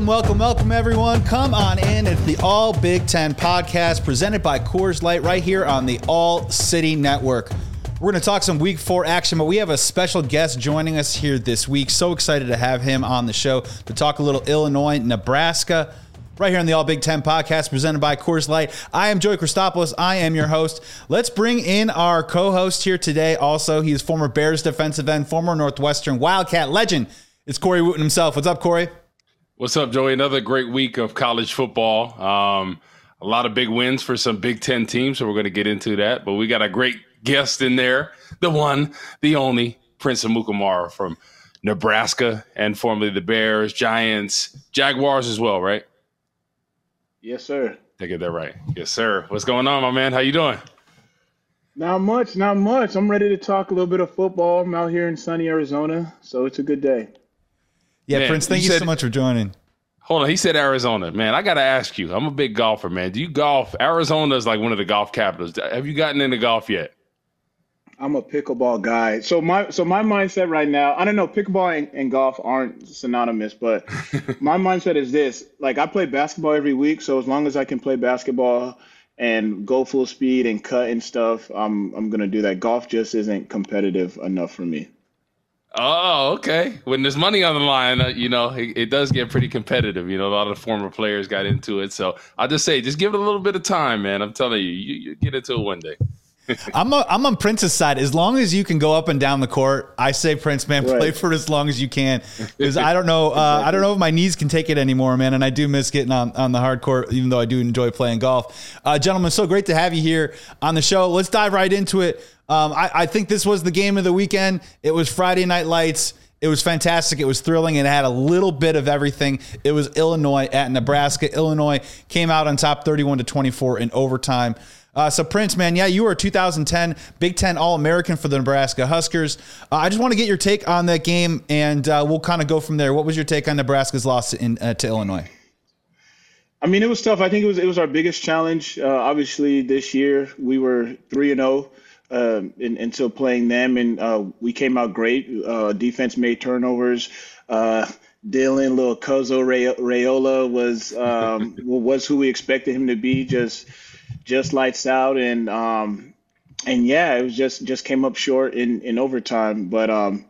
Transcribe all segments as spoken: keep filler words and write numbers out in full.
Welcome, welcome, welcome, everyone. Come on in. It's the All Big Ten podcast presented by Coors Light right here on the All City Network. We're going to talk some week four action, but we have a special guest joining us here this week. So excited to have him on the show to talk a little Illinois, Nebraska, right here on the All Big Ten podcast presented by Coors Light. I am Joey Christopoulos. I am your host. Let's bring in our co-host here today. Also, he is former Bears defensive end, former Northwestern Wildcat legend. It's Corey Wootton himself. What's up, Corey? What's up, Joey? Another great week of college football. Um, a lot of big wins for some Big Ten teams, so we're going to get into that. But we got a great guest in there, the one, the only, Prince Amukamara from Nebraska and formerly the Bears, Giants, Jaguars as well, right? Yes, sir. Did I get that right? Yes, sir. What's going on, my man? How you doing? Not much, not much. I'm ready to talk a little bit of football. I'm out here in sunny Arizona, so it's a good day. Yeah, man, Prince, thank you, you said, so much for joining. Hold on. He said Arizona. Man, I got to ask you. I'm a big golfer, man. Do you golf? Arizona is like one of the golf capitals. Have you gotten into golf yet? I'm a pickleball guy. So my so my mindset right now, I don't know, pickleball and, and golf aren't synonymous, but my mindset is this. Like, I play basketball every week, so as long as I can play basketball and go full speed and cut and stuff, I'm I'm going to do that. Golf just isn't competitive enough for me. Oh, okay. When there's money on the line, uh, you know, it, it does get pretty competitive. You know, a lot of the former players got into it. So I'll just say, just give it a little bit of time, man. I'm telling you, you, you get into it one day. I'm a, I'm on Prince's side. As long as you can go up and down the court, I say, Prince, man, play Right. for it as long as you can. Because I don't know, uh, Exactly. I don't know if my knees can take it anymore, man. And I do miss getting on, on the hard court, even though I do enjoy playing golf. Uh, gentlemen, so great to have you here on the show. Let's dive right into it. Um, I, I think this was the game of the weekend. It was Friday Night Lights. It was fantastic. It was thrilling. And it had a little bit of everything. It was Illinois at Nebraska. Illinois came out on top thirty-one to twenty-four in overtime. Uh, so, Prince, man, yeah, you were a two thousand ten Big Ten All-American for the Nebraska Huskers. Uh, I just want to get your take on that game, and uh, we'll kind of go from there. What was your take on Nebraska's loss in, uh, to Illinois? I mean, it was tough. I think it was it was our biggest challenge. Uh, obviously, this year we were three and zero um, until playing them, and uh, we came out great. Uh, defense made turnovers. Uh, Dylan, little Cozo Ray- Raiola was um, was who we expected him to be. Just just lights out, and um, and yeah, it was just just came up short in in overtime. But um,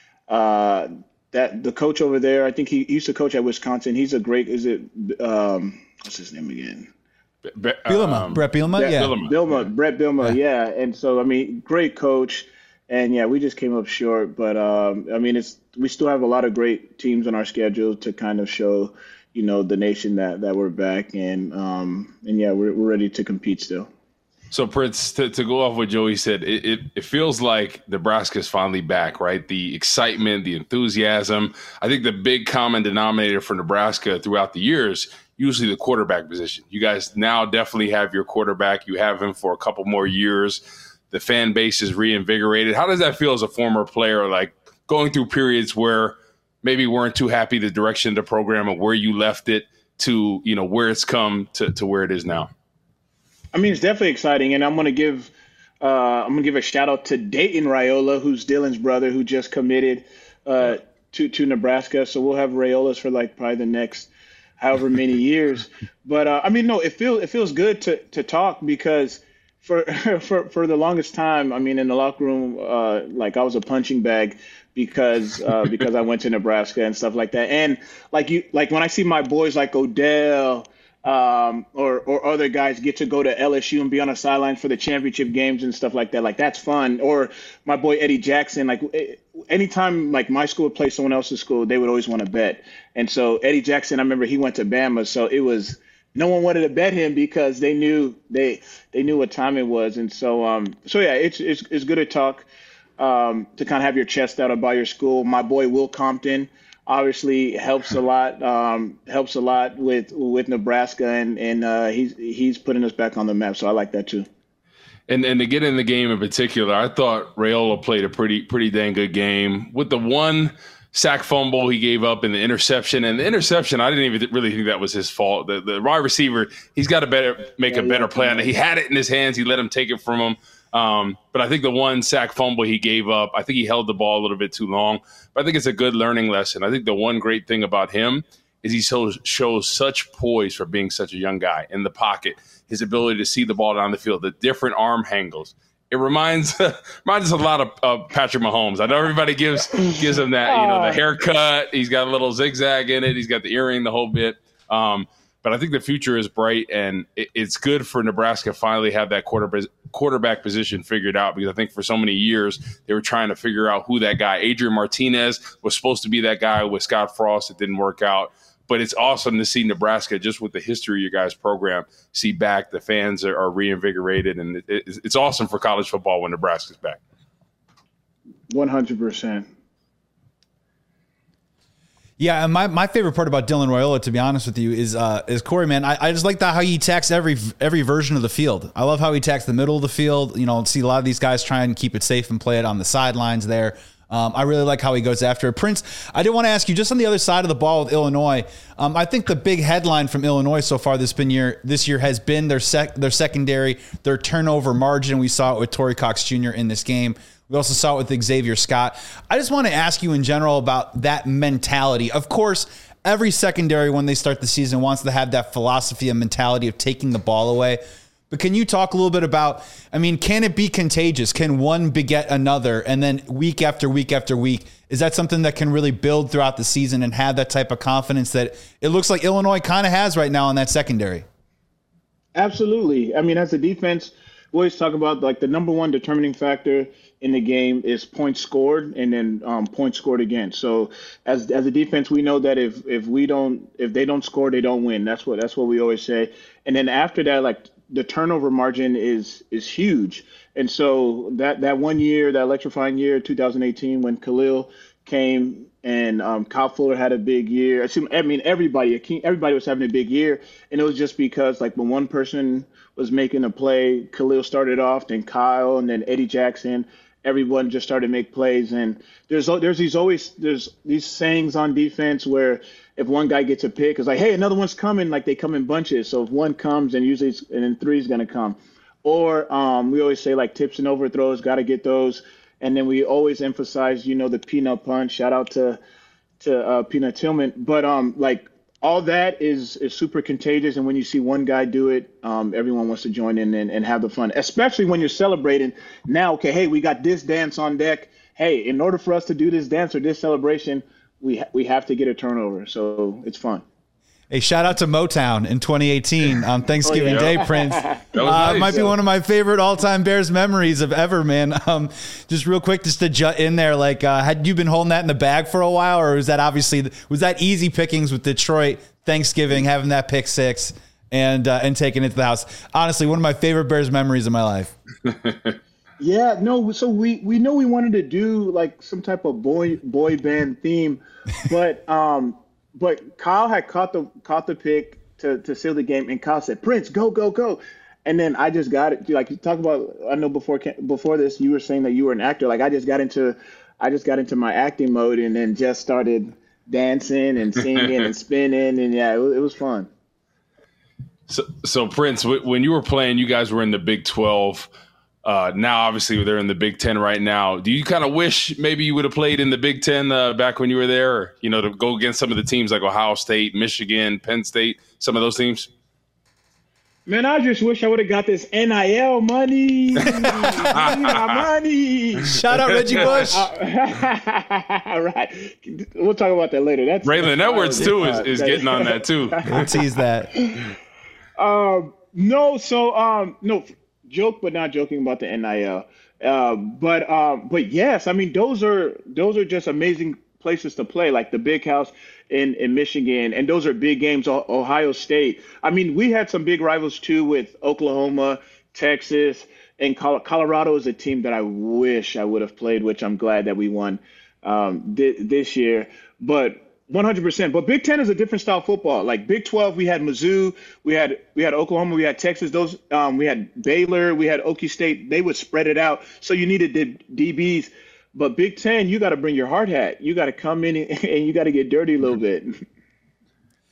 uh, that the coach over there, I think he, he used to coach at Wisconsin. He's a great. Is it um, what's his name again? Be- Bielema, um, Brett Bielema, Yeah, yeah. Bielema. Bilma, Brett Bilma, Yeah. yeah. And so, I mean, great coach. And yeah, we just came up short. But um, I mean, it's we still have a lot of great teams on our schedule to kind of show, you know, the nation that that we're back. And um, and yeah, we're we're ready to compete still. So, Prince, to, to go off what Joey said, it, it, it feels like Nebraska's finally back, right? The excitement, the enthusiasm. I think the big common denominator for Nebraska throughout the years, usually the quarterback position. You guys now definitely have your quarterback. You have him for a couple more years. The fan base is reinvigorated. How does that feel as a former player, like going through periods where maybe weren't too happy the direction of the program or where you left it to, you know, where it's come to, to where it is now? I mean, it's definitely exciting, and I'm gonna give uh, I'm gonna give a shout out to Dayton Raiola, who's Dylan's brother, who just committed uh, to to Nebraska. So we'll have Raiolas for like probably the next however many years. But uh, I mean, no, it feels it feels good to to talk because for for for the longest time, I mean, in the locker room, uh, like I was a punching bag because uh, because I went to Nebraska and stuff like that. And like you, like when I see my boys like Odell. Um, or or other guys get to go to L S U and be on the sideline for the championship games and stuff like that. Like, that's fun. Or my boy Eddie Jackson, like anytime like my school would play someone else's school, they would always want to bet. And so Eddie Jackson, I remember he went to Bama, so it was no one wanted to bet him because they knew they they knew what time it was. And so um so yeah, it's it's it's good to talk um to kind of have your chest out about your school. My boy Will Compton obviously helps a lot, um, helps a lot with with Nebraska, and and uh, he's he's putting us back on the map. So I like that too. And and to get in the game in particular, I thought Raiola played a pretty pretty dang good game with the one sack fumble he gave up and the interception. And the interception, I didn't even really think that was his fault. The the wide receiver, he's got to better make Yeah, a better yeah, play on it. He had it in his hands. He let him take it from him. Um, but I think the one sack fumble he gave up, I think he held the ball a little bit too long. But I think it's a good learning lesson. I think the one great thing about him is he so, shows such poise for being such a young guy in the pocket, his ability to see the ball down the field, the different arm angles. It reminds reminds us a lot of uh, Patrick Mahomes. I know everybody gives gives him that, you know, the haircut. He's got a little zigzag in it. He's got the earring, the whole bit. Um, but I think the future is bright, and it, it's good for Nebraska to finally have that quarter, quarterback position figured out, because I think for so many years they were trying to figure out who that guy. Adrian Martinez was supposed to be that guy with Scott Frost. It didn't work out. But it's awesome to see Nebraska, just with the history of your guys' program, see back. The fans are, are reinvigorated, and it, it, it's awesome for college football when Nebraska's back. one hundred percent. Yeah, and my, my favorite part about Dylan Raiola, to be honest with you, is uh, is Corey, man. I, I just like that how he attacks every every version of the field. I love how he attacks the middle of the field. You know, see a lot of these guys try and keep it safe and play it on the sidelines there. Um, I really like how he goes after it. Prince, I did want to ask you, just on the other side of the ball with Illinois, um, I think the big headline from Illinois so far this been year this year has been their sec, their secondary, their turnover margin. We saw it with Torrey Cox Junior in this game. We also saw it with Xavier Scott. I just want to ask you in general about that mentality. Of course, every secondary when they start the season wants to have that philosophy and mentality of taking the ball away. But can you talk a little bit about, I mean, can it be contagious? Can one beget another? And then week after week after week, is that something that can really build throughout the season and have that type of confidence that it looks like Illinois kind of has right now in that secondary? Absolutely. I mean, as a defense, we always talk about like the number one determining factor in the game is points scored and then um, points scored again. So as as a defense, we know that if if we don't if they don't score, they don't win. That's what that's what we always say. And then after that, like the turnover margin is is huge. And so that that one year, that electrifying year, two thousand eighteen, when Khalil came and um, Kyle Fuller had a big year. I mean, everybody everybody was having a big year, and it was just because like when one person was making a play, Khalil started off, then Kyle, and then Eddie Jackson. Everyone just started to make plays, and there's there's these always there's these sayings on defense where if one guy gets a pick, it's like, hey, another one's coming. Like they come in bunches. So if one comes, and usually it's, and then three is going to come. Or um, we always say like tips and overthrows, got to get those. And then we always emphasize, you know, the peanut punch. Shout out to to uh, Peanut Tillman. But um, like all that is is super contagious. And when you see one guy do it, um, everyone wants to join in and, and have the fun, especially when you're celebrating. Now, okay, hey, we got this dance on deck. Hey, in order for us to do this dance or this celebration, we ha- we have to get a turnover. So it's fun. Hey, shout out to Motown in twenty eighteen on Thanksgiving oh, yeah. Day, Prince. That was uh, nice, might be yeah. one of my favorite all-time Bears memories of ever, man. Um, just real quick, just to jut in there, like, uh, had you been holding that in the bag for a while, or was that obviously was that easy pickings with Detroit Thanksgiving, having that pick six and uh, and taking it to the house? Honestly, one of my favorite Bears memories of my life. Yeah, no. So we, we know we wanted to do like some type of boy boy band theme, but um, but Kyle had caught the caught the pick to, to seal the game, and Kyle said, "Prince, go go go," and then I just got it. Like you talk about, I know before before this, you were saying that you were an actor. Like I just got into, I just got into my acting mode, and then just started dancing and singing and spinning, and yeah, it was, it was fun. So, so Prince, w- when you were playing, you guys were in the Big twelve. Uh, now, obviously, they're in the Big Ten right now. Do you kind of wish maybe you would have played in the Big Ten uh, back when you were there, or, you know, to go against some of the teams like Ohio State, Michigan, Penn State, some of those teams? Man, I just wish I would have got this N I L money. money. Shout out Reggie Bush. All right. We'll talk about that later. That's Raylan that's Edwards, too, is, is getting on that, too. We'll tease that. Um, no, so, um, no, joke, but not joking about the N I L. Uh, but, um, but yes, I mean, those are, those are just amazing places to play, like the Big House in, in Michigan. And those are big games. Ohio State. I mean, we had some big rivals too with Oklahoma, Texas, and Colorado is a team that I wish I would have played, which I'm glad that we won um, th- this year. But one hundred percent. But Big Ten is a different style of football. Like Big twelve, we had Mizzou, we had we had Oklahoma, we had Texas. Those um, we had Baylor, we had Okie State. They would spread it out, so you needed the D Bs. But Big Ten, you got to bring your hard hat. You got to come in and you got to get dirty a little bit.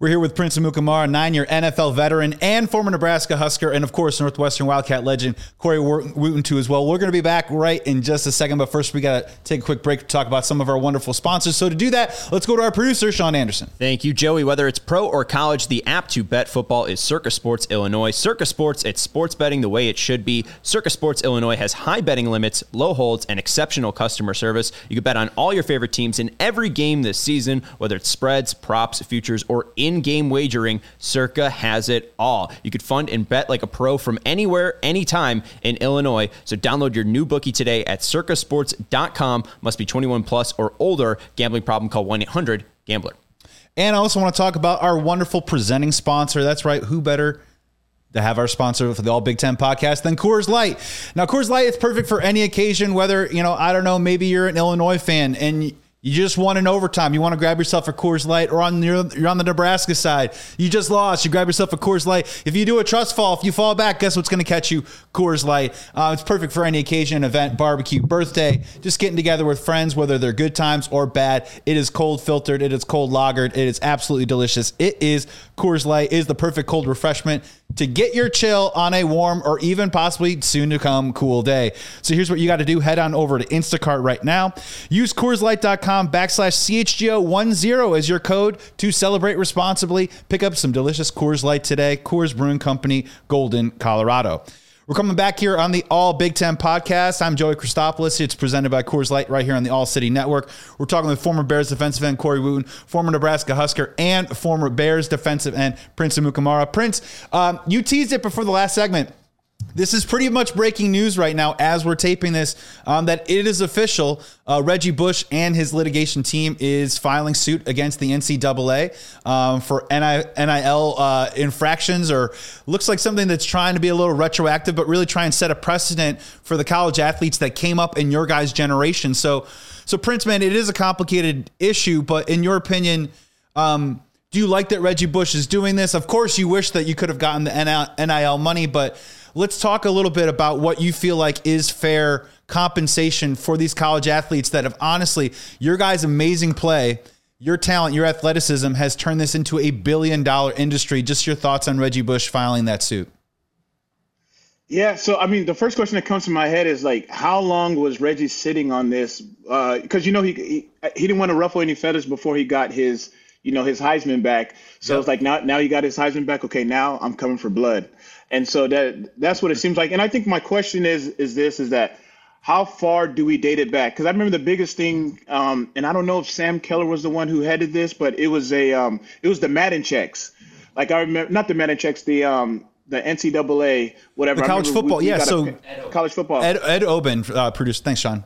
We're here with Prince Amukamara, nine-year N F L veteran and former Nebraska Husker, and of course, Northwestern Wildcat legend Corey Wootton too as well. We're going to be back right in just a second, but first we got to take a quick break to talk about some of our wonderful sponsors. So to do that, let's go to our producer, Sean Anderson. Thank you, Joey. Whether it's pro or college, the app to bet football is Circa Sports Illinois. Circa Sports, it's sports betting the way it should be. Circa Sports Illinois has high betting limits, low holds, and exceptional customer service. You can bet on all your favorite teams in every game this season, whether it's spreads, props, futures, or in-game wagering. Circa has it all. You could fund and bet like a pro from anywhere, anytime in Illinois. So download your new bookie today at circa sports dot com. Must be twenty-one plus or older. Gambling problem, call one eight hundred gambler. And I also want to talk about our wonderful presenting sponsor. That's right. Who better to have our sponsor for the All Big Ten podcast than Coors Light? Now, Coors Light is perfect for any occasion, whether, you know, I don't know, maybe you're an Illinois fan and you just won in overtime. You want to grab yourself a Coors Light, or on your, you're on the Nebraska side. You just lost. You grab yourself a Coors Light. If you do a trust fall, if you fall back, guess what's going to catch you? Coors Light. Uh, it's perfect for any occasion, event, barbecue, birthday, just getting together with friends, whether they're good times or bad. It is cold filtered. It is cold lagered. It is absolutely delicious. It is Coors Light. It is the perfect cold refreshment to get your chill on a warm or even possibly soon to come cool day. So here's what you got to do. Head on over to Instacart right now. Use Coors Light dot com backslash C H G O ten as your code to celebrate responsibly. Pick up some delicious Coors Light today. Coors Brewing Company, Golden, Colorado. We're coming back here on the All Big Ten podcast. I'm Joey Christopoulos. It's presented by Coors Light right here on the All City Network. We're talking with former Bears defensive end Corey Wootton, former Nebraska Husker, and former Bears defensive end Prince Amukamara. Prince, um, you teased it before the last segment. This is pretty much breaking news right now as we're taping this, um, that it is official. Uh, Reggie Bush and his litigation team is filing suit against the N C double A um, for N I L uh, infractions, or looks like something that's trying to be a little retroactive, but really try and set a precedent for the college athletes that came up in your guys' generation. So, so Prince, man, it is a complicated issue, but in your opinion, um, do you like that Reggie Bush is doing this? Of course, you wish that you could have gotten the N I L money, but let's talk a little bit about what you feel like is fair compensation for these college athletes that have, honestly, your guys' amazing play, your talent, your athleticism has turned this into a billion dollar industry. Just your thoughts on Reggie Bush filing that suit. Yeah, so I mean, the first question that comes to my head is like, how long was Reggie sitting on this? Because uh, you know he, he he didn't want to ruffle any feathers before he got his you know his Heisman back. So yep. It's like now now he got his Heisman back. Okay, now I'm coming for blood. And so that that's what it seems like. And I think my question is is this is that how far do we date it back? Because I remember the biggest thing, um, and I don't know if Sam Keller was the one who headed this, but it was a um, it was the Madden checks. Like I remember, not the Madden checks, the um, the N C double A, whatever. The college football, we, we yeah. So a, college football. Ed, Ed Oben uh, produced. Thanks, Sean.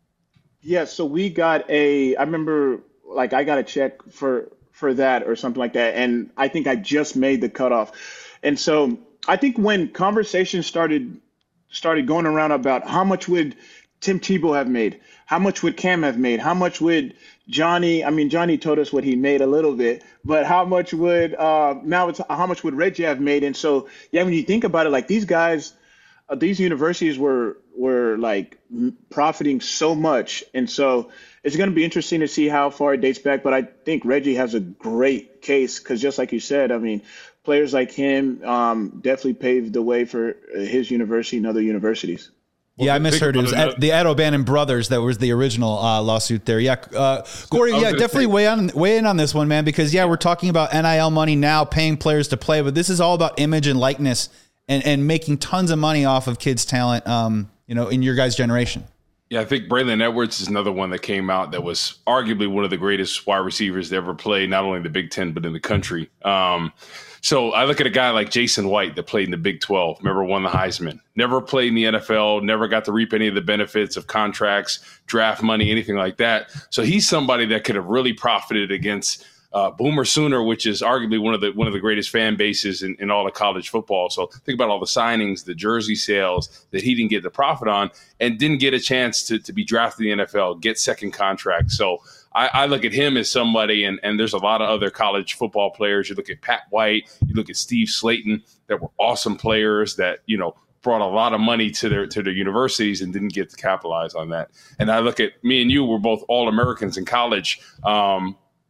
Yeah, so we got a. I remember, like I got a check for for that or something like that, and I think I just made the cutoff, and so. I think when conversations started started going around about how much would Tim Tebow have made, how much would Cam have made, how much would Johnny, I mean, Johnny told us what he made a little bit, but how much would, uh, now it's how much would Reggie have made? And so, yeah, when you think about it, like these guys, uh, these universities were, were like profiting so much. And so it's going to be interesting to see how far it dates back. But I think Reggie has a great case because just like you said, I mean, players like him um, definitely paved the way for his university and other universities. Well, yeah, I misheard. It was Ed, the Ed O'Bannon brothers that was the original uh, lawsuit there. Yeah, uh, Corey, yeah, definitely weigh, on, weigh in on this one, man, because, yeah, we're talking about N I L money now, paying players to play, but this is all about image and likeness and, and making tons of money off of kids' talent, um, you know, in your guys' generation. Yeah, I think Braylon Edwards is another one that came out that was arguably one of the greatest wide receivers to ever play, not only in the Big Ten, but in the country. Um, so I look at a guy like Jason White that played in the Big twelve, remember won the Heisman, never played in the N F L, never got to reap any of the benefits of contracts, draft money, anything like that. So he's somebody that could have really profited against Uh, Boomer Sooner, which is arguably one of the one of the greatest fan bases in, in all of college football. So think about all the signings, the jersey sales that he didn't get the profit on, and didn't get a chance to to be drafted in the N F L, get second contract. So I, I look at him as somebody, and, and there's a lot of other college football players. You look at Pat White, you look at Steve Slayton, that were awesome players that, you know, brought a lot of money to their to their universities and didn't get to capitalize on that. And I look at me and you, we're both All-Americans in college. Um,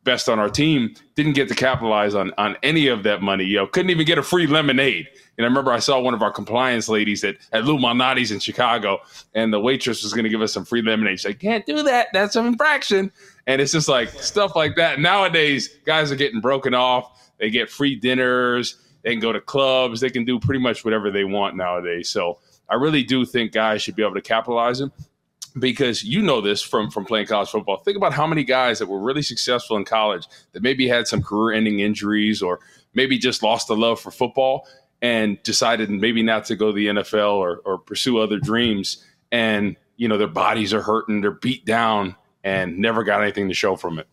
best on our team, didn't get to capitalize on on any of that money. You know, couldn't even get a free lemonade. And I remember I saw one of our compliance ladies at, at Lou Malnati's in Chicago, and the waitress was going to give us some free lemonade. She's like, can't do that. That's an infraction. And it's just like stuff like that. Nowadays, guys are getting broken off. They get free dinners. They can go to clubs. They can do pretty much whatever they want nowadays. So I really do think guys should be able to capitalize them. Because you know this from, from playing college football. Think about how many guys that were really successful in college that maybe had some career-ending injuries or maybe just lost the love for football and decided maybe not to go to the N F L or, or pursue other dreams. And, you know, their bodies are hurting, they're beat down, and never got anything to show from it.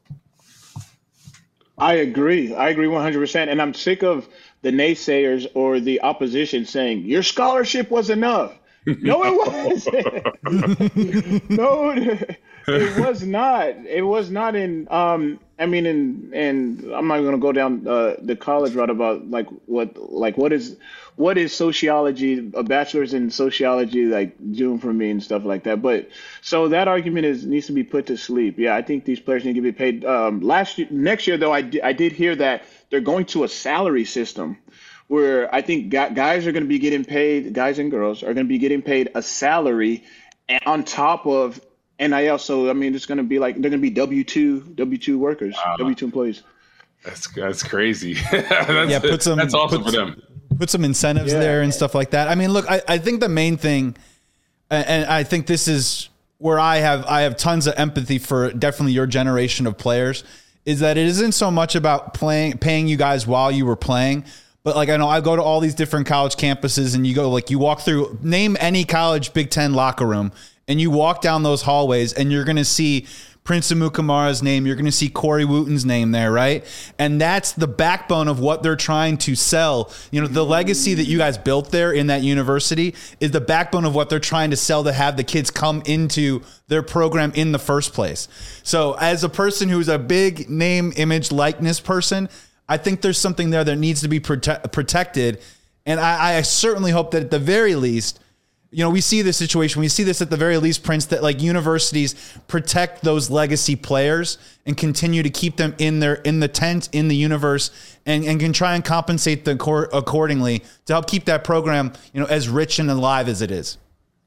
I agree. I agree one hundred percent. And I'm sick of the naysayers or the opposition saying, your scholarship was enough. No, it wasn't. No, it was not. It was not in. Um, I mean, in and I'm not going to go down uh, the college route about like what, like what is, what is sociology, a bachelor's in sociology, like doing for me and stuff like that. But so that argument is needs to be put to sleep. Yeah, I think these players need to be paid. Um, last year, next year though, I di- I did hear that they're going to a salary system, where I think guys are going to be getting paid, guys and girls are going to be getting paid a salary on top of N I L. So, I mean, it's going to be like they're going to be W two W two workers, wow. W two employees. That's that's crazy. that's, yeah, put some, that's awesome put, for them. Put some incentives yeah. there and stuff like that. I mean, look, I, I think the main thing, and I think this is where I have I have tons of empathy for definitely your generation of players, is that it isn't so much about playing paying you guys while you were playing. But like, I know I go to all these different college campuses and you go like you walk through, name any college Big Ten locker room and you walk down those hallways and you're going to see Prince Amukamara's name. You're going to see Corey Wooten's name there. Right. And that's the backbone of what they're trying to sell. You know, the legacy that you guys built there in that university is the backbone of what they're trying to sell to have the kids come into their program in the first place. So as a person who's a big name, image, likeness person, I think there's something there that needs to be prote- protected. And I, I certainly hope that at the very least, you know, we see this situation, we see this at the very least, Prince, that like universities protect those legacy players and continue to keep them in their, in the tent, in the universe, and, and can try and compensate them cor- accordingly to help keep that program, you know, as rich and alive as it is.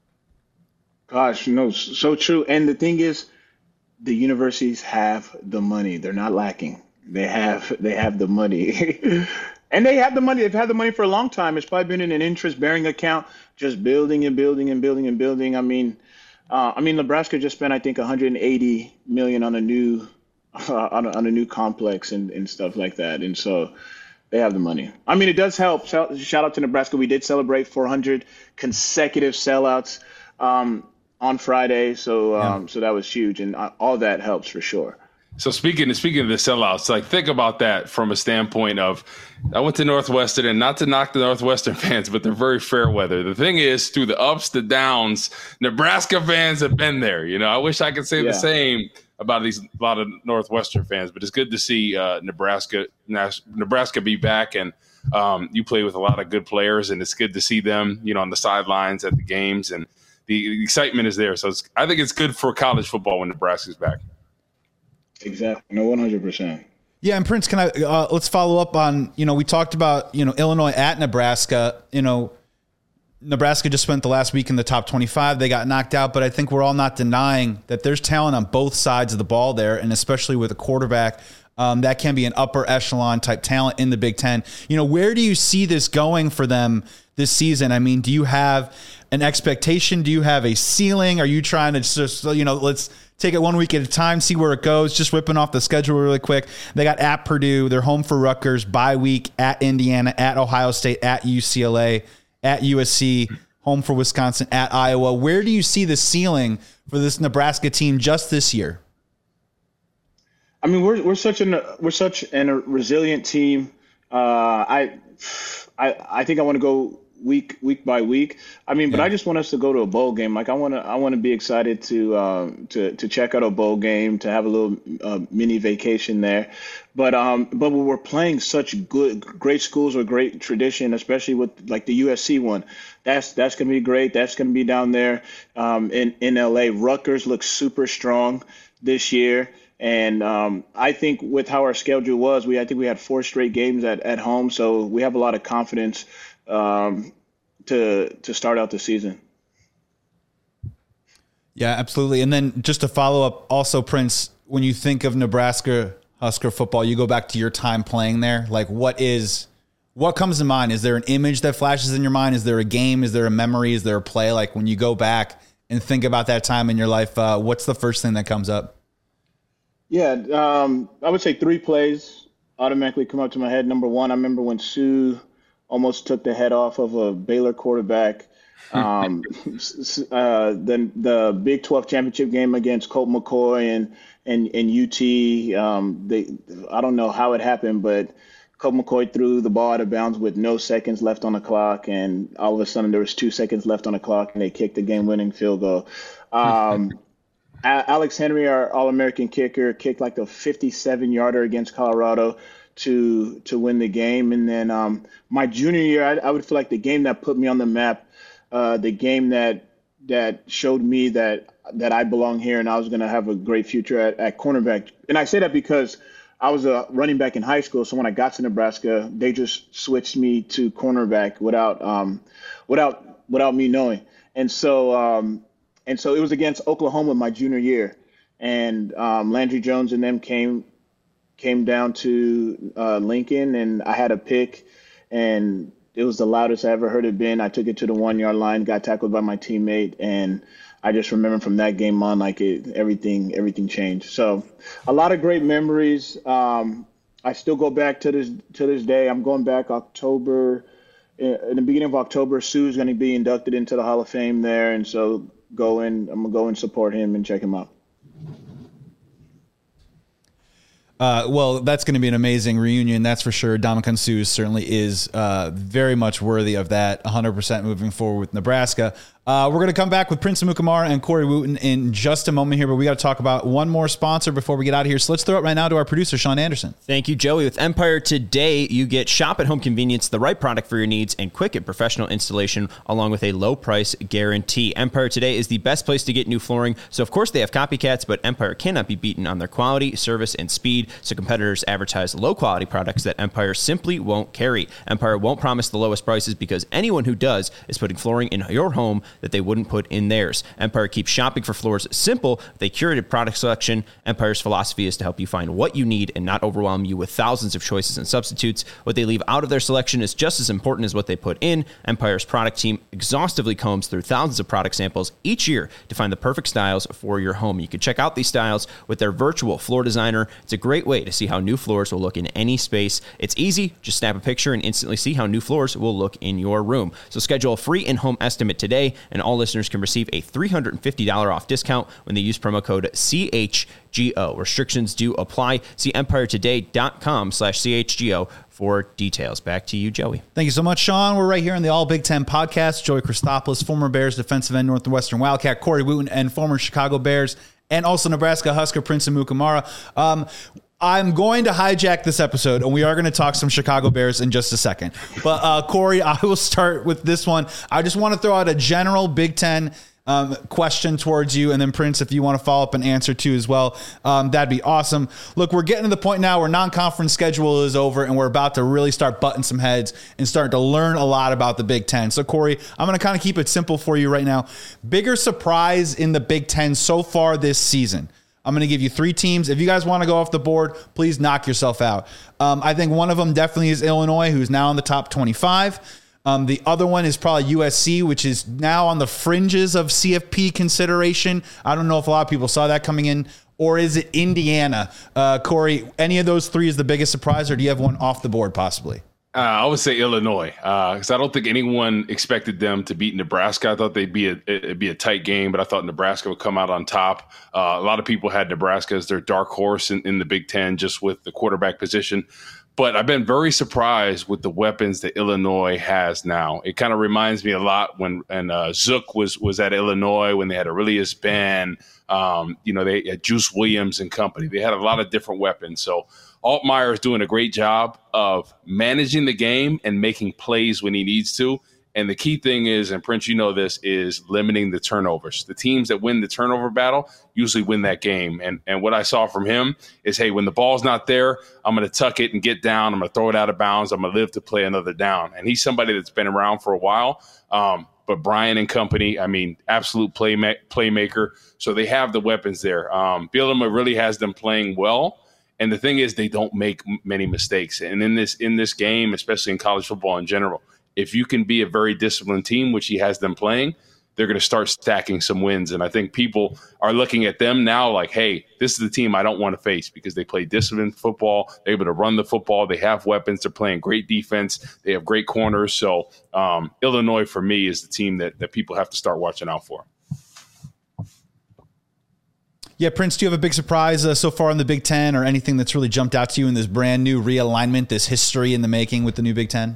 Gosh, no, so true. And the thing is, the universities have the money. They're not lacking. They have they have the money. And they have the money. They've had the money for a long time. It's probably been in an interest-bearing account, just building and building and building and building. I mean, uh, I mean, Nebraska just spent, I think, one hundred eighty million dollars on a new uh, on, a, on a new complex and, and stuff like that. And so they have the money. I mean, it does help. Shout, shout out to Nebraska. We did celebrate four hundred consecutive sellouts um, on Friday. So um, yeah. so that was huge. And all that helps for sure. So speaking speaking of the sellouts, like think about that from a standpoint of, I went to Northwestern, and not to knock the Northwestern fans, but they're very fair weather. The thing is, through the ups, the downs, Nebraska fans have been there. You know, I wish I could say yeah. the same about these a lot of Northwestern fans, but it's good to see uh, Nebraska Nebraska be back, and um, you play with a lot of good players, and it's good to see them, you know, on the sidelines at the games, and the excitement is there. So it's, I think it's good for college football when Nebraska's back. Exactly. No, one hundred percent. Yeah. And Prince, can I, uh, let's follow up on, you know, we talked about, you know, Illinois at Nebraska. You know, Nebraska just spent the last week in the top twenty-five. They got knocked out, but I think we're all not denying that there's talent on both sides of the ball there. And especially with a quarterback, um, that can be an upper echelon type talent in the Big Ten. You know, where do you see this going for them this season? I mean, do you have an expectation? Do you have a ceiling? Are you trying to just, you know, let's take it one week at a time, see where it goes, just whipping off the schedule really quick. They got at Purdue, they're home for Rutgers, bye week at Indiana, at Ohio State, at U C L A, at U S C, home for Wisconsin, at Iowa. Where do you see the ceiling for this Nebraska team just this year? I mean, we're we're such an we're such an, a resilient team. Uh, I I I think I want to go week week by week. I mean, but yeah. I just want us to go to a bowl game. Like I want to I want to be excited to uh, to to check out a bowl game, to have a little uh, mini vacation there. But um, but we're playing such good great schools with great tradition, especially with like the U S C one. That's that's gonna be great. That's gonna be down there um, in in L A. Rutgers looks super strong this year. And um, I think with how our schedule was, we I think we had four straight games at, at home, so we have a lot of confidence um, to to start out the season. Yeah, absolutely. And then just to follow up, also, Prince, when you think of Nebraska Husker football, you go back to your time playing there. Like, what is what comes to mind? Is there an image that flashes in your mind? Is there a game? Is there a memory? Is there a play? Like, when you go back and think about that time in your life, uh, what's the first thing that comes up? Yeah, um, I would say three plays automatically come up to my head. Number one, I remember when Sue almost took the head off of a Baylor quarterback. Um, uh, the the Big twelve championship game against Colt McCoy and and and U T. Um, they I don't know how it happened, but Colt McCoy threw the ball out of bounds with no seconds left on the clock, and all of a sudden there was two seconds left on the clock, and they kicked the game-winning field goal. Um, Alex Henry, our All-American kicker, kicked like a fifty-seven yarder against Colorado to to win the game. And then um, my junior year, I, I would feel like the game that put me on the map, uh, the game that that showed me that that I belong here and I was going to have a great future at, at cornerback. And I say that because I was a running back in high school, so when I got to Nebraska, they just switched me to cornerback without um, without without me knowing. And so. Um, And so it was against Oklahoma my junior year, and um, Landry Jones and them came came down to uh, Lincoln, and I had a pick, and it was the loudest I ever heard it been. I took it to the one yard line, got tackled by my teammate, and I just remember from that game on, like it, everything everything changed. So a lot of great memories. Um, I still go back to this to this day. I'm going back October, in the beginning of October. Sue's going to be inducted into the Hall of Fame there, and so. Go in, I'm gonna go and support him and check him out. Uh, well, that's going to be an amazing reunion, that's for sure. Ndamukong Suh certainly is uh, very much worthy of that, one hundred percent moving forward with Nebraska. Uh, we're going to come back with Prince Amukamara and Corey Wootton in just a moment here, but we got to talk about one more sponsor before we get out of here. So let's throw it right now to our producer, Sean Anderson. Thank you, Joey. With Empire Today, you get shop at home convenience, the right product for your needs, and quick and professional installation, along with a low price guarantee. Empire Today is the best place to get new flooring. So, of course, they have copycats, but Empire cannot be beaten on their quality, service, and speed. So competitors advertise low-quality products that Empire simply won't carry. Empire won't promise the lowest prices because anyone who does is putting flooring in your home that they wouldn't put in theirs. Empire keeps shopping for floors simple with a curated product selection. Empire's philosophy is to help you find what you need and not overwhelm you with thousands of choices and substitutes. What they leave out of their selection is just as important as what they put in. Empire's product team exhaustively combs through thousands of product samples each year to find the perfect styles for your home. You can check out these styles with their virtual floor designer. It's a great way to see how new floors will look in any space. It's easy. Just snap a picture and instantly see how new floors will look in your room. So schedule a free in-home estimate today, and all listeners can receive a three hundred fifty dollars off discount when they use promo code C H G O. Restrictions do apply. See empiretoday.com slash CHGO for details. Back to you, Joey. Thank you so much, Sean. We're right here on the All Big Ten podcast. Joey Christopoulos, former Bears defensive end, Northwestern Wildcat, Corey Wootton, and former Chicago Bears, and also Nebraska Husker Prince Amukamara. Um, I'm going to hijack this episode, and we are going to talk some Chicago Bears in just a second. But uh, Corey, I will start with this one. I just want to throw out a general Big Ten um, question towards you, and then Prince, if you want to follow up and answer too as well, um, that'd be awesome. Look, we're getting to the point now where non-conference schedule is over, and we're about to really start butting some heads and start to learn a lot about the Big Ten. So, Corey, I'm going to kind of keep it simple for you right now. Bigger surprise in the Big Ten so far this season? I'm going to give you three teams. If you guys want to go off the board, please knock yourself out. Um, I think one of them definitely is Illinois, who's now in the top twenty-five. Um, the other one is probably U S C, which is now on the fringes of C F P consideration. I don't know if a lot of people saw that coming in. Or is it Indiana? Uh, Corey, any of those three is the biggest surprise, or do you have one off the board possibly? Uh, I would say Illinois, because uh, I don't think anyone expected them to beat Nebraska. I thought they'd be a, it'd be a tight game, but I thought Nebraska would come out on top. Uh, a lot of people had Nebraska as their dark horse in, in the Big Ten, just with the quarterback position. But I've been very surprised with the weapons that Illinois has now. It kind of reminds me a lot when and uh, Zook was was at Illinois when they had Aurelius Ben, um, you know, they had Juice Williams and company. They had a lot of different weapons. So Altmaier is doing a great job of managing the game and making plays when he needs to. And the key thing is, and Prince, you know this, is limiting the turnovers. The teams that win the turnover battle usually win that game. And and what I saw from him is, hey, when the ball's not there, I'm going to tuck it and get down. I'm going to throw it out of bounds. I'm going to live to play another down. And he's somebody that's been around for a while. Um, but Brian and company, I mean, absolute play playmaker. So they have the weapons there. Um, Bielema really has them playing well. And the thing is, they don't make many mistakes. And in this in this game, especially in college football in general, if you can be a very disciplined team, which he has them playing, they're going to start stacking some wins. And I think people are looking at them now like, hey, this is the team I don't want to face because they play disciplined football. They're able to run the football. They have weapons. They're playing great defense. They have great corners. So um, Illinois, for me, is the team that, that people have to start watching out for. Yeah, Prince, do you have a big surprise uh, so far in the Big Ten or anything that's really jumped out to you in this brand new realignment, this history in the making with the new Big Ten?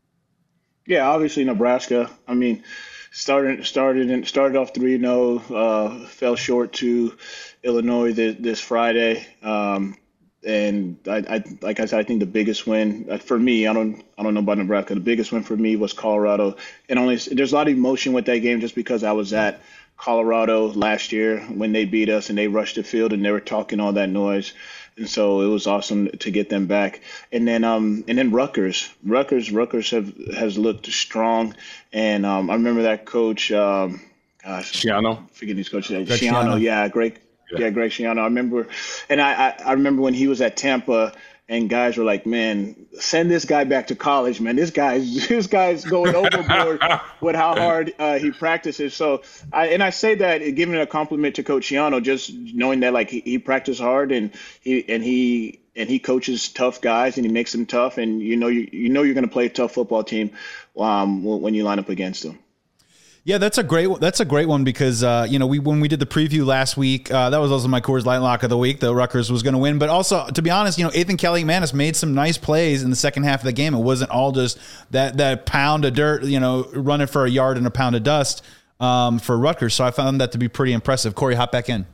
Yeah, obviously Nebraska. I mean, started started and started off three and oh, uh, fell short to Illinois this, this Friday. Um, and I, I, like I said, I think the biggest win for me, I don't, I don't know about Nebraska. The biggest win for me was Colorado, and only there's a lot of emotion with that game just because I was at Colorado last year when they beat us and they rushed the field and they were talking all that noise. And so it was awesome to get them back. And then um and then Rutgers. Rutgers Rutgers have has looked strong. And um I remember that coach um gosh Schiano. Forget his coach. Schiano, Schiano. yeah, Greg yeah. yeah, Greg Schiano. I remember and I, I, I remember when he was at Tampa and guys were like, man, send this guy back to college, man. This guy's this guy's going overboard with how hard uh, he practices. So, I, and I say that giving a compliment to Coach Schiano, just knowing that like he, he practiced hard and he and he and he coaches tough guys and he makes them tough. And you know you you know you're going to play a tough football team um, when you line up against them. Yeah, that's a great that's a great one because uh, you know we when we did the preview last week, uh, that was also my Coors Light lock of the week. The Rutgers was going to win, but also to be honest, you know Ethan Kelly McManus made some nice plays in the second half of the game. It wasn't all just that that pound of dirt, you know, running for a yard and a pound of dust um, for Rutgers. So I found that to be pretty impressive. Corey, hop back in.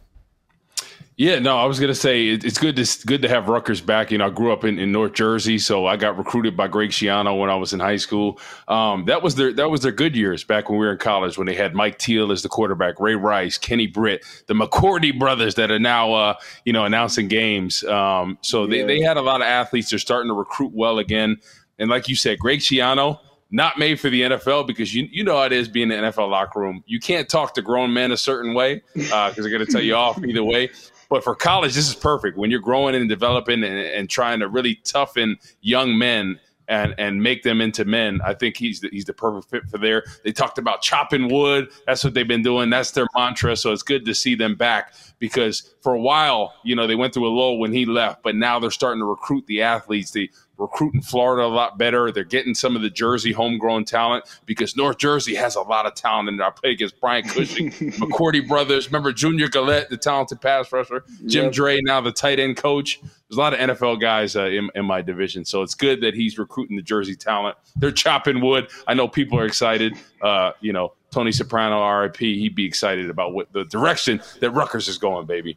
Yeah, no, I was going to say it, it's good to good to have Rutgers back. You know, I grew up in, in North Jersey, so I got recruited by Greg Schiano when I was in high school. Um, that was their that was their good years back when we were in college, when they had Mike Teal as the quarterback, Ray Rice, Kenny Britt, the McCourty brothers that are now uh, you know announcing games. Um, so they, yeah. they had a lot of athletes. They're starting to recruit well again. And like you said, Greg Schiano, not made for the N F L because you you know how it is being in the N F L locker room. You can't talk to grown men a certain way because uh, they're going to tell you off either way. But for college, this is perfect. When you're growing and developing and, and trying to really toughen young men and and make them into men, I think he's the, he's the perfect fit for there. They talked about chopping wood. That's what they've been doing. That's their mantra. So it's good to see them back because for a while, you know, they went through a lull when he left, but now they're starting to recruit the athletes. They recruit in Florida a lot better. They're getting some of the Jersey homegrown talent because North Jersey has a lot of talent. And I played against Brian Cushing, McCourty brothers. Remember Junior Gillette, the talented pass rusher, Jim yep. Dre, now the tight end coach. There's a lot of N F L guys uh, in, in my division. So it's good that he's recruiting the Jersey talent. They're chopping wood. I know people are excited. Uh, you know, Tony Soprano, R I P, he'd be excited about what the direction that Rutgers is going, baby.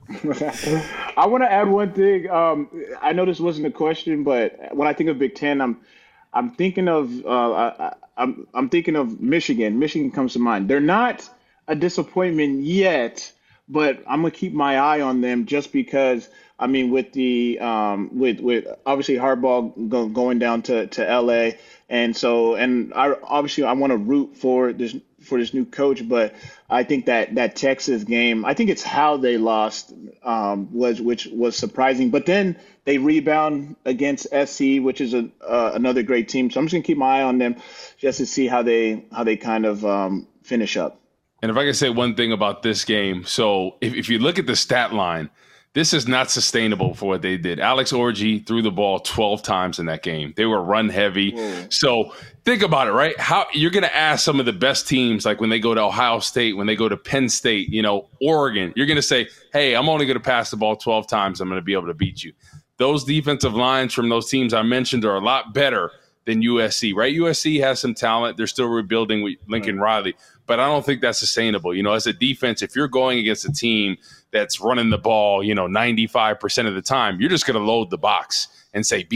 I want to add one thing. Um, I know this wasn't a question, but when I think of Big Ten, I'm I'm thinking of uh, I, I'm I'm thinking of Michigan. Michigan comes to mind. They're not a disappointment yet, but I'm gonna keep my eye on them just because. I mean, with the um, with with obviously Harbaugh go, going down to, to L A, and so and I obviously I want to root for this for this new coach, but I think that that Texas game, I think it's how they lost um, was which was surprising. But then they rebound against S C, which is a uh, another great team. So I'm just gonna keep my eye on them just to see how they how they kind of um, finish up. And if I can say one thing about this game, so if, if you look at the stat line. This is not sustainable for what they did. Alex Orji threw the ball twelve times in that game. They were run heavy. Whoa. So think about it, right? How you're going to ask some of the best teams, like when they go to Ohio State, when they go to Penn State, you know, Oregon, you're going to say, hey, I'm only going to pass the ball twelve times. I'm going to be able to beat you. Those defensive lines from those teams I mentioned are a lot better than U S C, right? U S C has some talent. They're still rebuilding with Lincoln right. Riley, but I don't think that's sustainable. You know, as a defense, if you're going against a team that's running the ball, you know, ninety-five percent of the time, you're just going to load the box and say, beat me.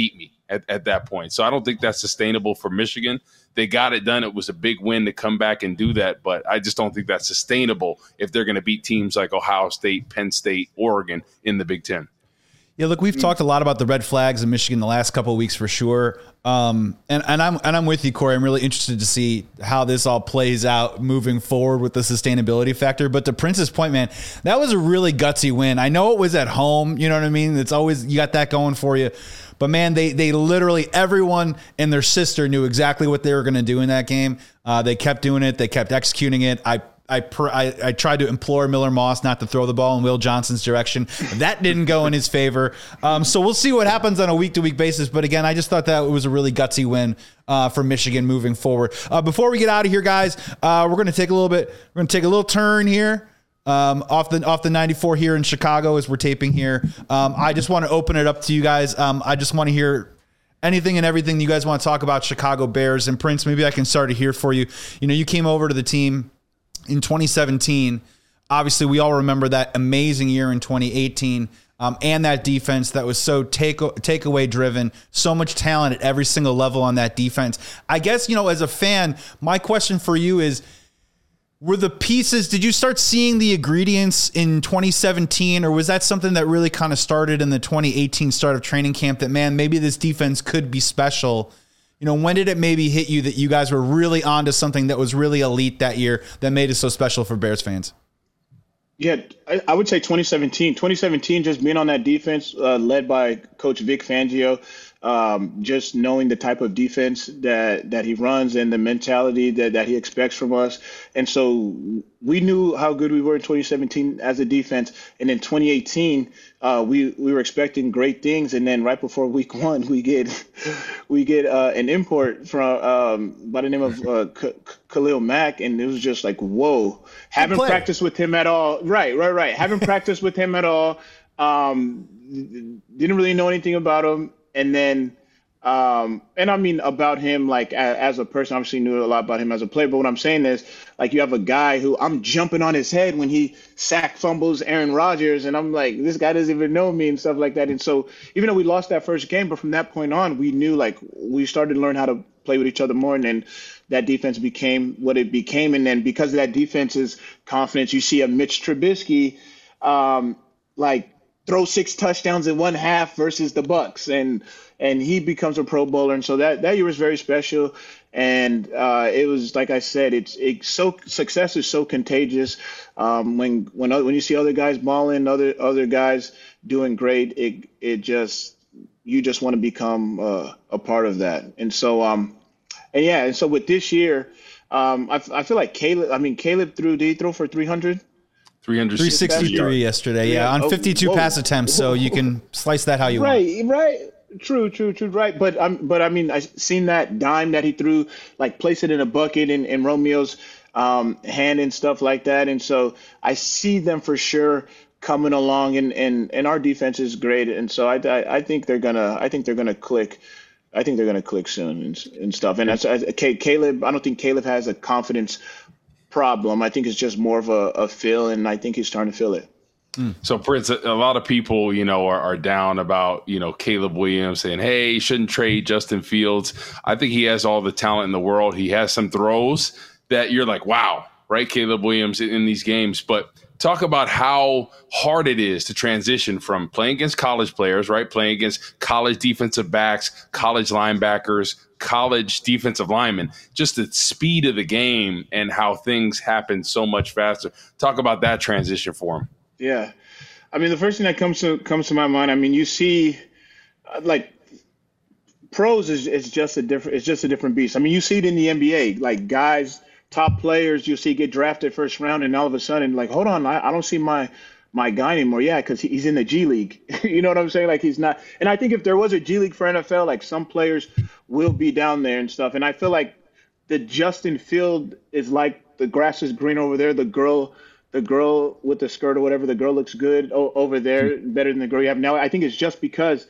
at, at that point. So I don't think that's sustainable for Michigan. They got it done. It was a big win to come back and do that, but I just don't think that's sustainable if they're going to beat teams like Ohio State, Penn State, Oregon in the Big Ten. Yeah, look, we've talked a lot about the red flags in Michigan the last couple of weeks for sure. Um, and, and I'm and I'm with you, Corey. I'm really interested to see how this all plays out moving forward with the sustainability factor. But to Prince's point, man, that was a really gutsy win. I know it was at home. You know what I mean? It's always, you got that going for you. But man, they they literally, everyone and their sister knew exactly what they were going to do in that game. Uh, they kept doing it. They kept executing it. I I, pr- I I tried to implore Miller Moss not to throw the ball in Will Johnson's direction. That didn't go in his favor. Um, so we'll see what happens on a week-to-week basis. But again, I just thought that it was a really gutsy win uh, for Michigan moving forward. Uh, before we get out of here, guys, uh, we're going to take a little bit. We're going to take a little turn here. Um, off the off the ninety-four here in Chicago as we're taping here. Um, I just want to open it up to you guys. Um, I just want to hear anything and everything you guys want to talk about Chicago Bears. And Prince, maybe I can start it here for you. You know, you came over to the team in twenty seventeen. Obviously, we all remember that amazing year in twenty eighteen. Um, and that defense that was so take takeaway driven, so much talent at every single level on that defense. I guess, you know, as a fan, my question for you is, were the pieces, did you start seeing the ingredients in twenty seventeen, or was that something that really kind of started in the twenty eighteen start of training camp that, man, maybe this defense could be special? You know, when did it maybe hit you that you guys were really onto something that was really elite that year that made it so special for Bears fans? Yeah, I, I would say twenty seventeen. twenty seventeen, just being on that defense uh, led by Coach Vic Fangio. Um, just knowing the type of defense that, that he runs and the mentality that, that he expects from us. And so we knew how good we were in twenty seventeen as a defense. And in twenty eighteen, uh, we, we were expecting great things. And then right before week one, we get we get uh, an import from um, by the name of uh, K- Khalil Mack. And it was just like, whoa, haven't practiced with him at all. Right, right, right. Haven't practiced with him at all. Um, didn't really know anything about him. And then, um, and I mean about him, like as, as a person, obviously knew a lot about him as a player. But what I'm saying is, like, you have a guy who I'm jumping on his head when he sack fumbles Aaron Rodgers. And I'm like, this guy doesn't even know me and stuff like that. And so even though we lost that first game, but from that point on, we knew, like, we started to learn how to play with each other more. And then that defense became what it became. And then because of that defense's confidence, you see a Mitch Trubisky, um, like, throw six touchdowns in one half versus the Bucks, and and he becomes a Pro Bowler. And so that, that year was very special. And uh, it was, like I said, it's it so success is so contagious. Um, when when other, when you see other guys balling, other other guys doing great, it it just you just want to become uh, a part of that. And so um and yeah, and so with this year, um I, I feel like Caleb. I mean Caleb threw. Did he throw for three hundred? three sixty-three yesterday, yeah, yeah. on fifty-two oh, pass attempts. So you can slice that how you right, want. Right, right. True, true, true. Right, but um, but I mean, I seen that dime that he threw, like place it in a bucket in, in Romeo's um, hand and stuff like that. And so I see them for sure coming along, and, and, and our defense is great. And so I, I, I think they're gonna I think they're gonna click. I think they're gonna click soon and, and stuff. And that's I, Caleb. I don't think Caleb has a confidence problem. I think it's just more of a, a feel, and I think he's starting to feel it. Mm. So, Prince, a, a lot of people, you know, are, are down about, you know, Caleb Williams saying, hey, you shouldn't trade Justin Fields. I think he has all the talent in the world. He has some throws that you're like, wow, right, Caleb Williams in, in these games. But talk about how hard it is to transition from playing against college players, right, playing against college defensive backs, college linebackers, college defensive linemen, just the speed of the game and how things happen so much faster. Talk about that transition for him. Yeah. I mean, the first thing that comes to comes to my mind, I mean, you see uh, like pros is, is just a different it's just a different beast. I mean, you see it in the N B A, like guys, top players you see get drafted first round, and all of a sudden, like, hold on, I, I don't see my my guy anymore. Yeah, because he's in the G League. You know what I'm saying? Like, he's not. And I think if there was a G League for N F L, like, some players will be down there and stuff. And I feel like the Justin Field is like the grass is green over there. The girl, the girl with the skirt or whatever, the girl looks good o- over there, better than the girl you have now. I think it's just because,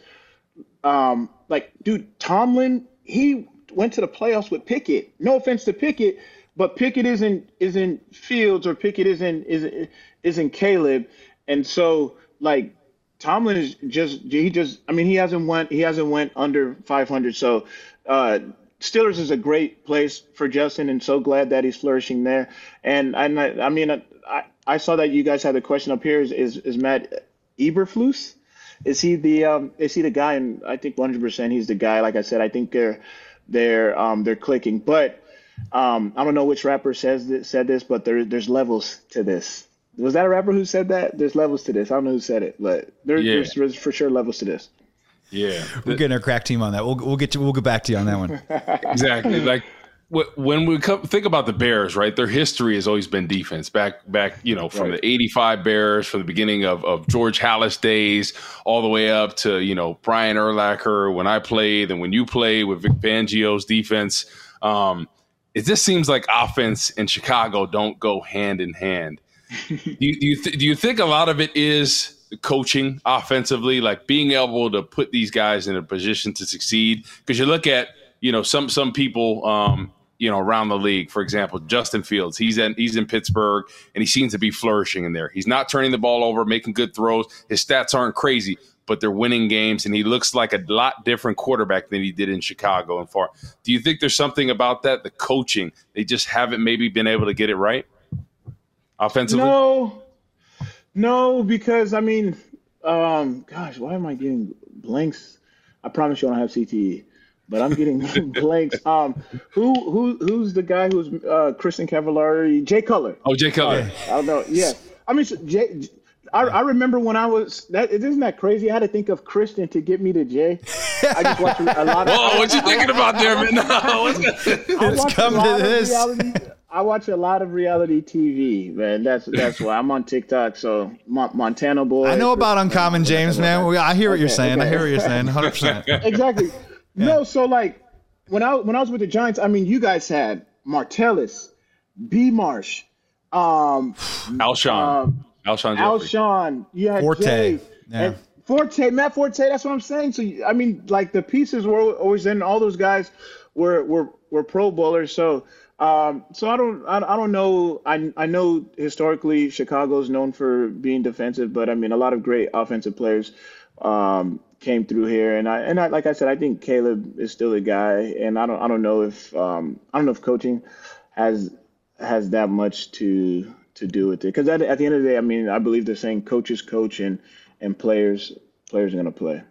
um, like, dude, Tomlin, he went to the playoffs with Pickett. No offense to Pickett, but Pickett isn't isn't Fields, or Pickett isn't isn't isn't Caleb. And so, like, Tomlin is just he just I mean he hasn't went he hasn't went under five hundred. So uh, Steelers is a great place for Justin, and so glad that he's flourishing there. And and I, I mean I, I saw that you guys had a question up here. Is is, is Matt Eberflus? Is he the um, is he the guy? And I think one hundred percent he's the guy. Like I said, I think they're they're um, they're clicking. But um, I don't know which rapper says this, said this, but there there's levels to this. Was that a rapper who said that? There's levels to this. I don't know who said it, but there, yeah. there's, there's for sure levels to this. Yeah, we're getting our crack team on that. We'll we'll get to, we'll get back to you on that one. Exactly. Like when we come, think about the Bears, right? Their history has always been defense. Back back, you know, from right. the eighty-five Bears, from the beginning of, of George Halas days, all the way up to you know Brian Urlacher when I played, and when you played with Vic Fangio's defense. Um, it just seems like offense and Chicago don't go hand in hand. do you do you, th- do you think a lot of it is coaching offensively, like being able to put these guys in a position to succeed? Because you look at you know some some people um, you know around the league, for example, Justin Fields. He's in he's in Pittsburgh, and he seems to be flourishing in there. He's not turning the ball over, making good throws. His stats aren't crazy, but they're winning games, and he looks like a lot different quarterback than he did in Chicago and far. Do you think there's something about that, the coaching? They just haven't maybe been able to get it right offensively? No, no, because, I mean, um, gosh, why am I getting blanks? I promise you I don't have C T E, but I'm getting blanks. Um, who who Who's the guy who's uh, Kristen Cavallari? Jay Cutler. Oh, Jay Cutler. I don't know. Yeah. I mean, Jay – I, I remember when I was that isn't that crazy? I had to think of Kristen to get me to Jay. I just watched a lot of. Whoa, what you thinking about there, man? No, it's coming to this. Reality, I watch a lot of reality T V, man. That's that's why I'm on TikTok. So Montana Boy. I know about Uncommon James, man. I hear what you're saying. Okay. I hear what you're saying. one hundred percent. Exactly. Yeah. No, so like when I when I was with the Giants, I mean, you guys had Martellus, B. Marsh, um, Alshon. Um, Alshon, Alshon, you had Forte, Jay, yeah. and Forte, Matt Forte. That's what I'm saying. So I mean, like the pieces were always in. All those guys were were were Pro Bowlers. So um, so I don't I, I don't know. I I know historically Chicago's known for being defensive, but I mean a lot of great offensive players um, came through here. And I and I, like I said, I think Caleb is still a guy. And I don't I don't know if um, I don't know if coaching has has that much to. to do with it, because at, at the end of the day, I mean, I believe they're saying coaches coach and and players players are going to play.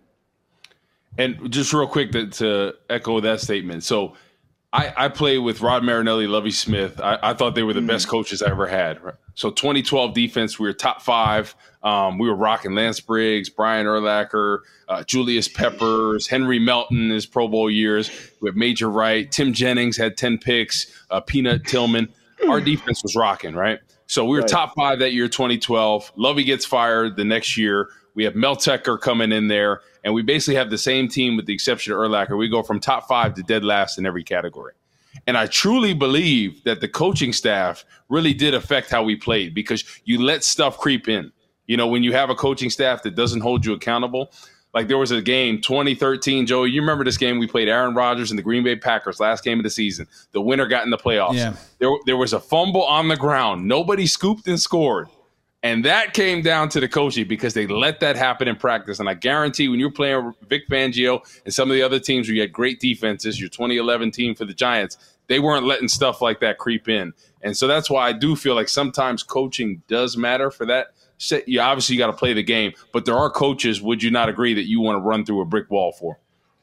And just real quick to, to echo that statement, so I, I played with Rod Marinelli, Lovie Smith. I, I thought they were the mm-hmm. best coaches I ever had. Right? So twenty twelve defense, we were top five. Um, we were rocking Lance Briggs, Brian Urlacher, uh, Julius Peppers, Henry Melton, his Pro Bowl years. We have Major Wright, Tim Jennings had ten picks, uh, Peanut Tillman. Our defense was rocking, right? So we were right. top five that year, twenty twelve. Lovey gets fired the next year. We have Mel Tucker coming in there, and we basically have the same team with the exception of Urlacher. We go from top five to dead last in every category. And I truly believe that the coaching staff really did affect how we played, because you let stuff creep in. You know, when you have a coaching staff that doesn't hold you accountable. Like there was a game, twenty thirteen, Joey, you remember this game? We played Aaron Rodgers and the Green Bay Packers, last game of the season. The winner got in the playoffs. Yeah. There, there was a fumble on the ground. Nobody scooped and scored. And that came down to the coaching, because they let that happen in practice. And I guarantee when you're playing Vic Fangio and some of the other teams where you had great defenses, your twenty eleven team for the Giants, they weren't letting stuff like that creep in. And so that's why I do feel like sometimes coaching does matter for that. You obviously got to play the game, but there are coaches, would you not agree, that you want to run through a brick wall for?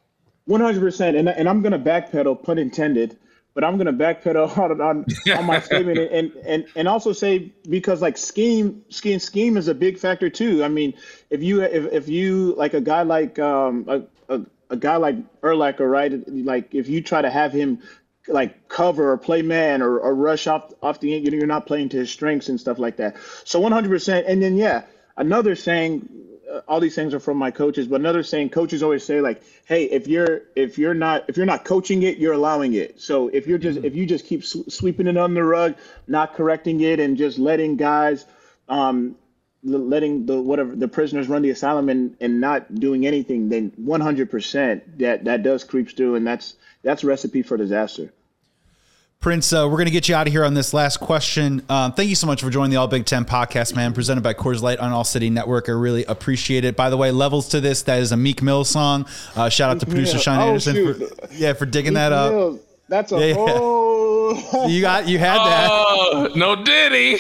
one hundred percent. And and I'm going to backpedal, pun intended, but I'm going to backpedal on, on, on my statement and, and, and also say, because like scheme, scheme, scheme is a big factor too. I mean, if you, if, if you like a guy like um, a, a, a guy like Urlacher, right? Like if you try to have him like cover or play man or, or rush off off the end, you know, you're not playing to his strengths and stuff like that. So one hundred percent. And then, yeah, another saying, uh, all these things are from my coaches, but another saying, coaches always say like, hey, if you're, if you're not, if you're not coaching it, you're allowing it. So if you're just, mm-hmm. if you just keep sw- sweeping it under the rug, not correcting it and just letting guys, um, letting the, whatever the prisoners run the asylum and, and not doing anything, then one hundred percent that, that does creeps through. And that's, that's a recipe for disaster. Prince, uh, we're going to get you out of here on this last question. Um, thank you so much for joining the All Big Ten podcast, man, presented by Coors Light on All City Network. I really appreciate it. By the way, Levels to This, that is a Meek Mill song. Uh, shout out to producer Sean oh, Anderson for, yeah, for digging Meek that up. Mill. That's a yeah, whole. You got, you had that. Oh, no Diddy.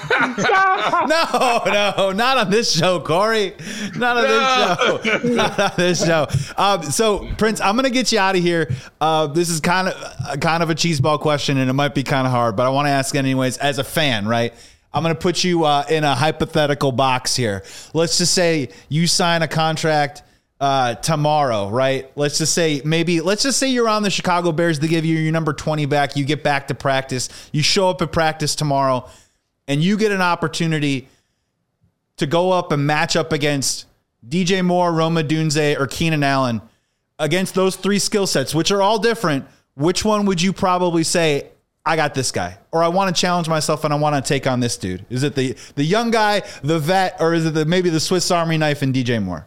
no, no, not on this show, Corey. Not on No. this show. Not on this show. Um, so, Prince, I'm gonna get you out of here. Uh, this is kind of, kind of a cheeseball question, and it might be kind of hard, but I want to ask it anyways. As a fan, right? I'm gonna put you uh, in a hypothetical box here. Let's just say you sign a contract. Uh, tomorrow, right? Let's just say maybe, let's just say you're on the Chicago Bears. They give you your number twenty back. You get back to practice. You show up at practice tomorrow and you get an opportunity to go up and match up against D J Moore, Rome Odunze, or Keenan Allen. Against those three skill sets, which are all different, which one would you probably say, I got this guy, or I want to challenge myself and I want to take on this dude? Is it the, the young guy, the vet, or is it the, maybe the Swiss Army knife and D J Moore?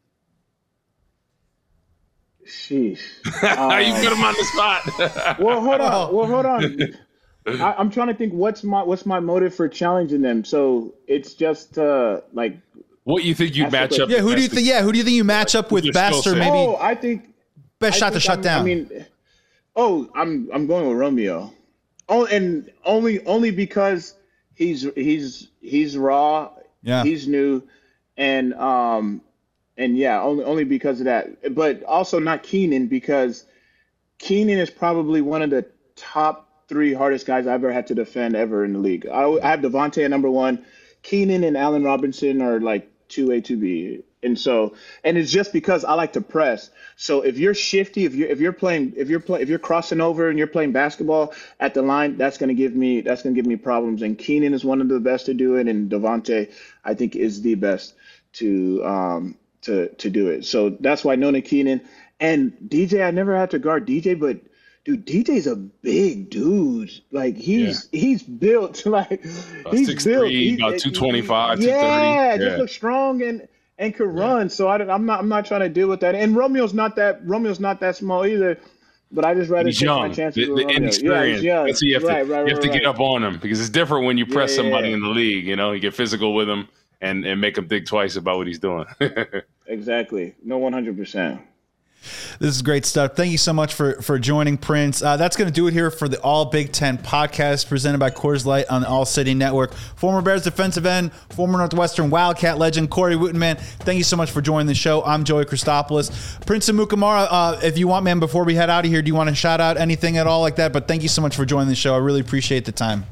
Sheesh. Um, you put him on the spot. well, hold on. Well, hold on. I, I'm trying to think what's my what's my motive for challenging them. So it's just uh, like what you think you match up? Yeah, who do you think? Yeah, who do you think you match up with best, or maybe oh, I think best I shot think to shut I'm, down? I mean, oh, I'm I'm going with Romeo. Oh, and only only because he's he's he's raw. Yeah, he's new, and um. And yeah, only only because of that. But also not Keenan, because Keenan is probably one of the top three hardest guys I've ever had to defend ever in the league. I, I have Devontae at number one. Keenan and Allen Robinson are like two A, two B. And so, and it's just because I like to press. So if you're shifty, if you're if you're playing, if you're play, if you're crossing over and you're playing basketball at the line, that's gonna give me that's gonna give me problems. And Keenan is one of the best to do it, and Devontae, I think, is the best to um to to do it. So that's why Nona Keenan and D J. I never had to guard D J, but dude, D J's a big dude. Like he's yeah. he's built like about he's six, built three, he, about two twenty-five, yeah, two thirty. Yeah, just yeah. looks strong and and can yeah. run. So I don't, I'm not I'm not trying to deal with that. And Romeo's not that Romeo's not that small either. But I just rather he's take young. my chances The, with the inexperience. Yeah, yeah. That's what you have right, to right, you have right, to get right. up on him, because it's different when you press yeah. somebody in the league. You know, you get physical with him and and make him think twice about what he's doing. Exactly. No, one hundred percent. This is great stuff. Thank you so much for, for joining, Prince. Uh, that's going to do it here for the All Big Ten podcast presented by Coors Light on the All City Network. Former Bears defensive end, former Northwestern Wildcat legend, Corey Wootton, man. Thank you so much for joining the show. I'm Joey Christopoulos. Prince Amukamara, uh, if you want, man, before we head out of here, do you want to shout out anything at all like that? But thank you so much for joining the show. I really appreciate the time.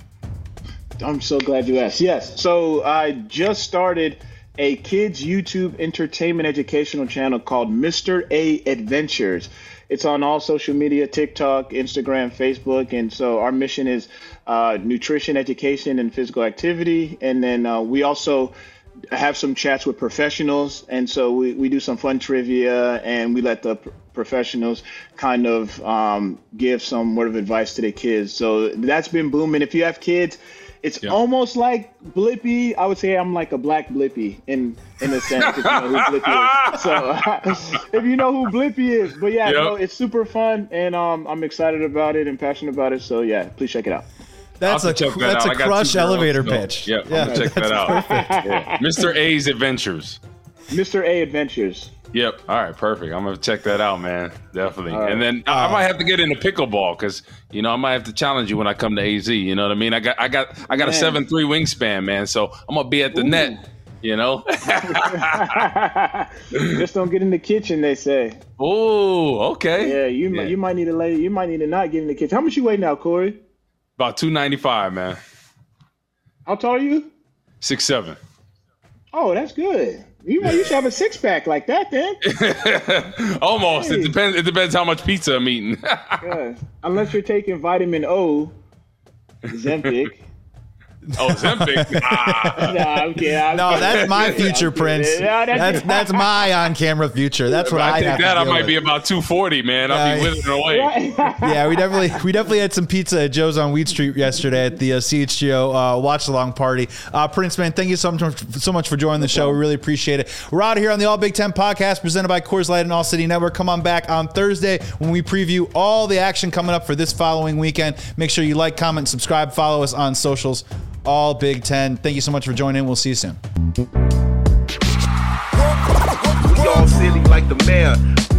I'm so glad you asked. Yes. So I just started a kids YouTube entertainment educational channel called Mister A Adventures. It's on all social media, TikTok, Instagram, Facebook. And so our mission is uh, nutrition, education, and physical activity. And then uh, we also have some chats with professionals. And so we, we do some fun trivia, and we let the p- professionals kind of um, give some word of advice to their kids. So that's been booming. If you have kids, it's yeah. almost like Blippi. I would say I'm like a black Blippi in in a sense, if you know who Blippi is. So if you know who Blippi is. But yeah, yep. no, it's super fun, and um, I'm excited about it and passionate about it. So yeah, please check it out. That's a that that's out. a Crush elevator pitch. Yeah, yeah, I'm gonna check that out. Yeah. Mister A's Adventures. Mister A Adventures. Yep. All right. Perfect. I'm gonna check that out, man. Definitely. Right. And then I, I might have to get into pickleball, because you know I might have to challenge you when I come to A Z. You know what I mean? I got I got I got man. a seven three wingspan, man. So I'm gonna be at the Ooh. net. You know. Just don't get in the kitchen, they say. Oh, okay. Yeah, you yeah. might you might need to lay. You might need to not get in the kitchen. How much you weigh now, Corey? About two ninety-five, man. How tall are you? six seven. Oh, that's good. You you should have a six pack like that, then. Almost. Hey. It depends. It depends how much pizza I'm eating. Yeah. Unless you're taking vitamin O, Zempic. Oh, Ozempic? Nah. No, I'm kidding. I'm No, kidding. that's my I'm future, kidding. Prince. No, that's- That's that's my on-camera future. That's what I I think have that to I deal might with. be about two forty, man. I'll be Yeah. withering away. Yeah, we definitely we definitely had some pizza at Joe's on Wheat Street yesterday at the uh, C H G O uh, watch along party. Uh, Prince, man, thank you so much so much for joining the show. We really appreciate it. We're out of here on the All Big Ten podcast presented by Coors Light and All City Network. Come on back on Thursday when we preview all the action coming up for this following weekend. Make sure you like, comment, subscribe, follow us on socials. All Big Ten. Thank you so much for joining. We'll see you soon. We all silly like the mayor.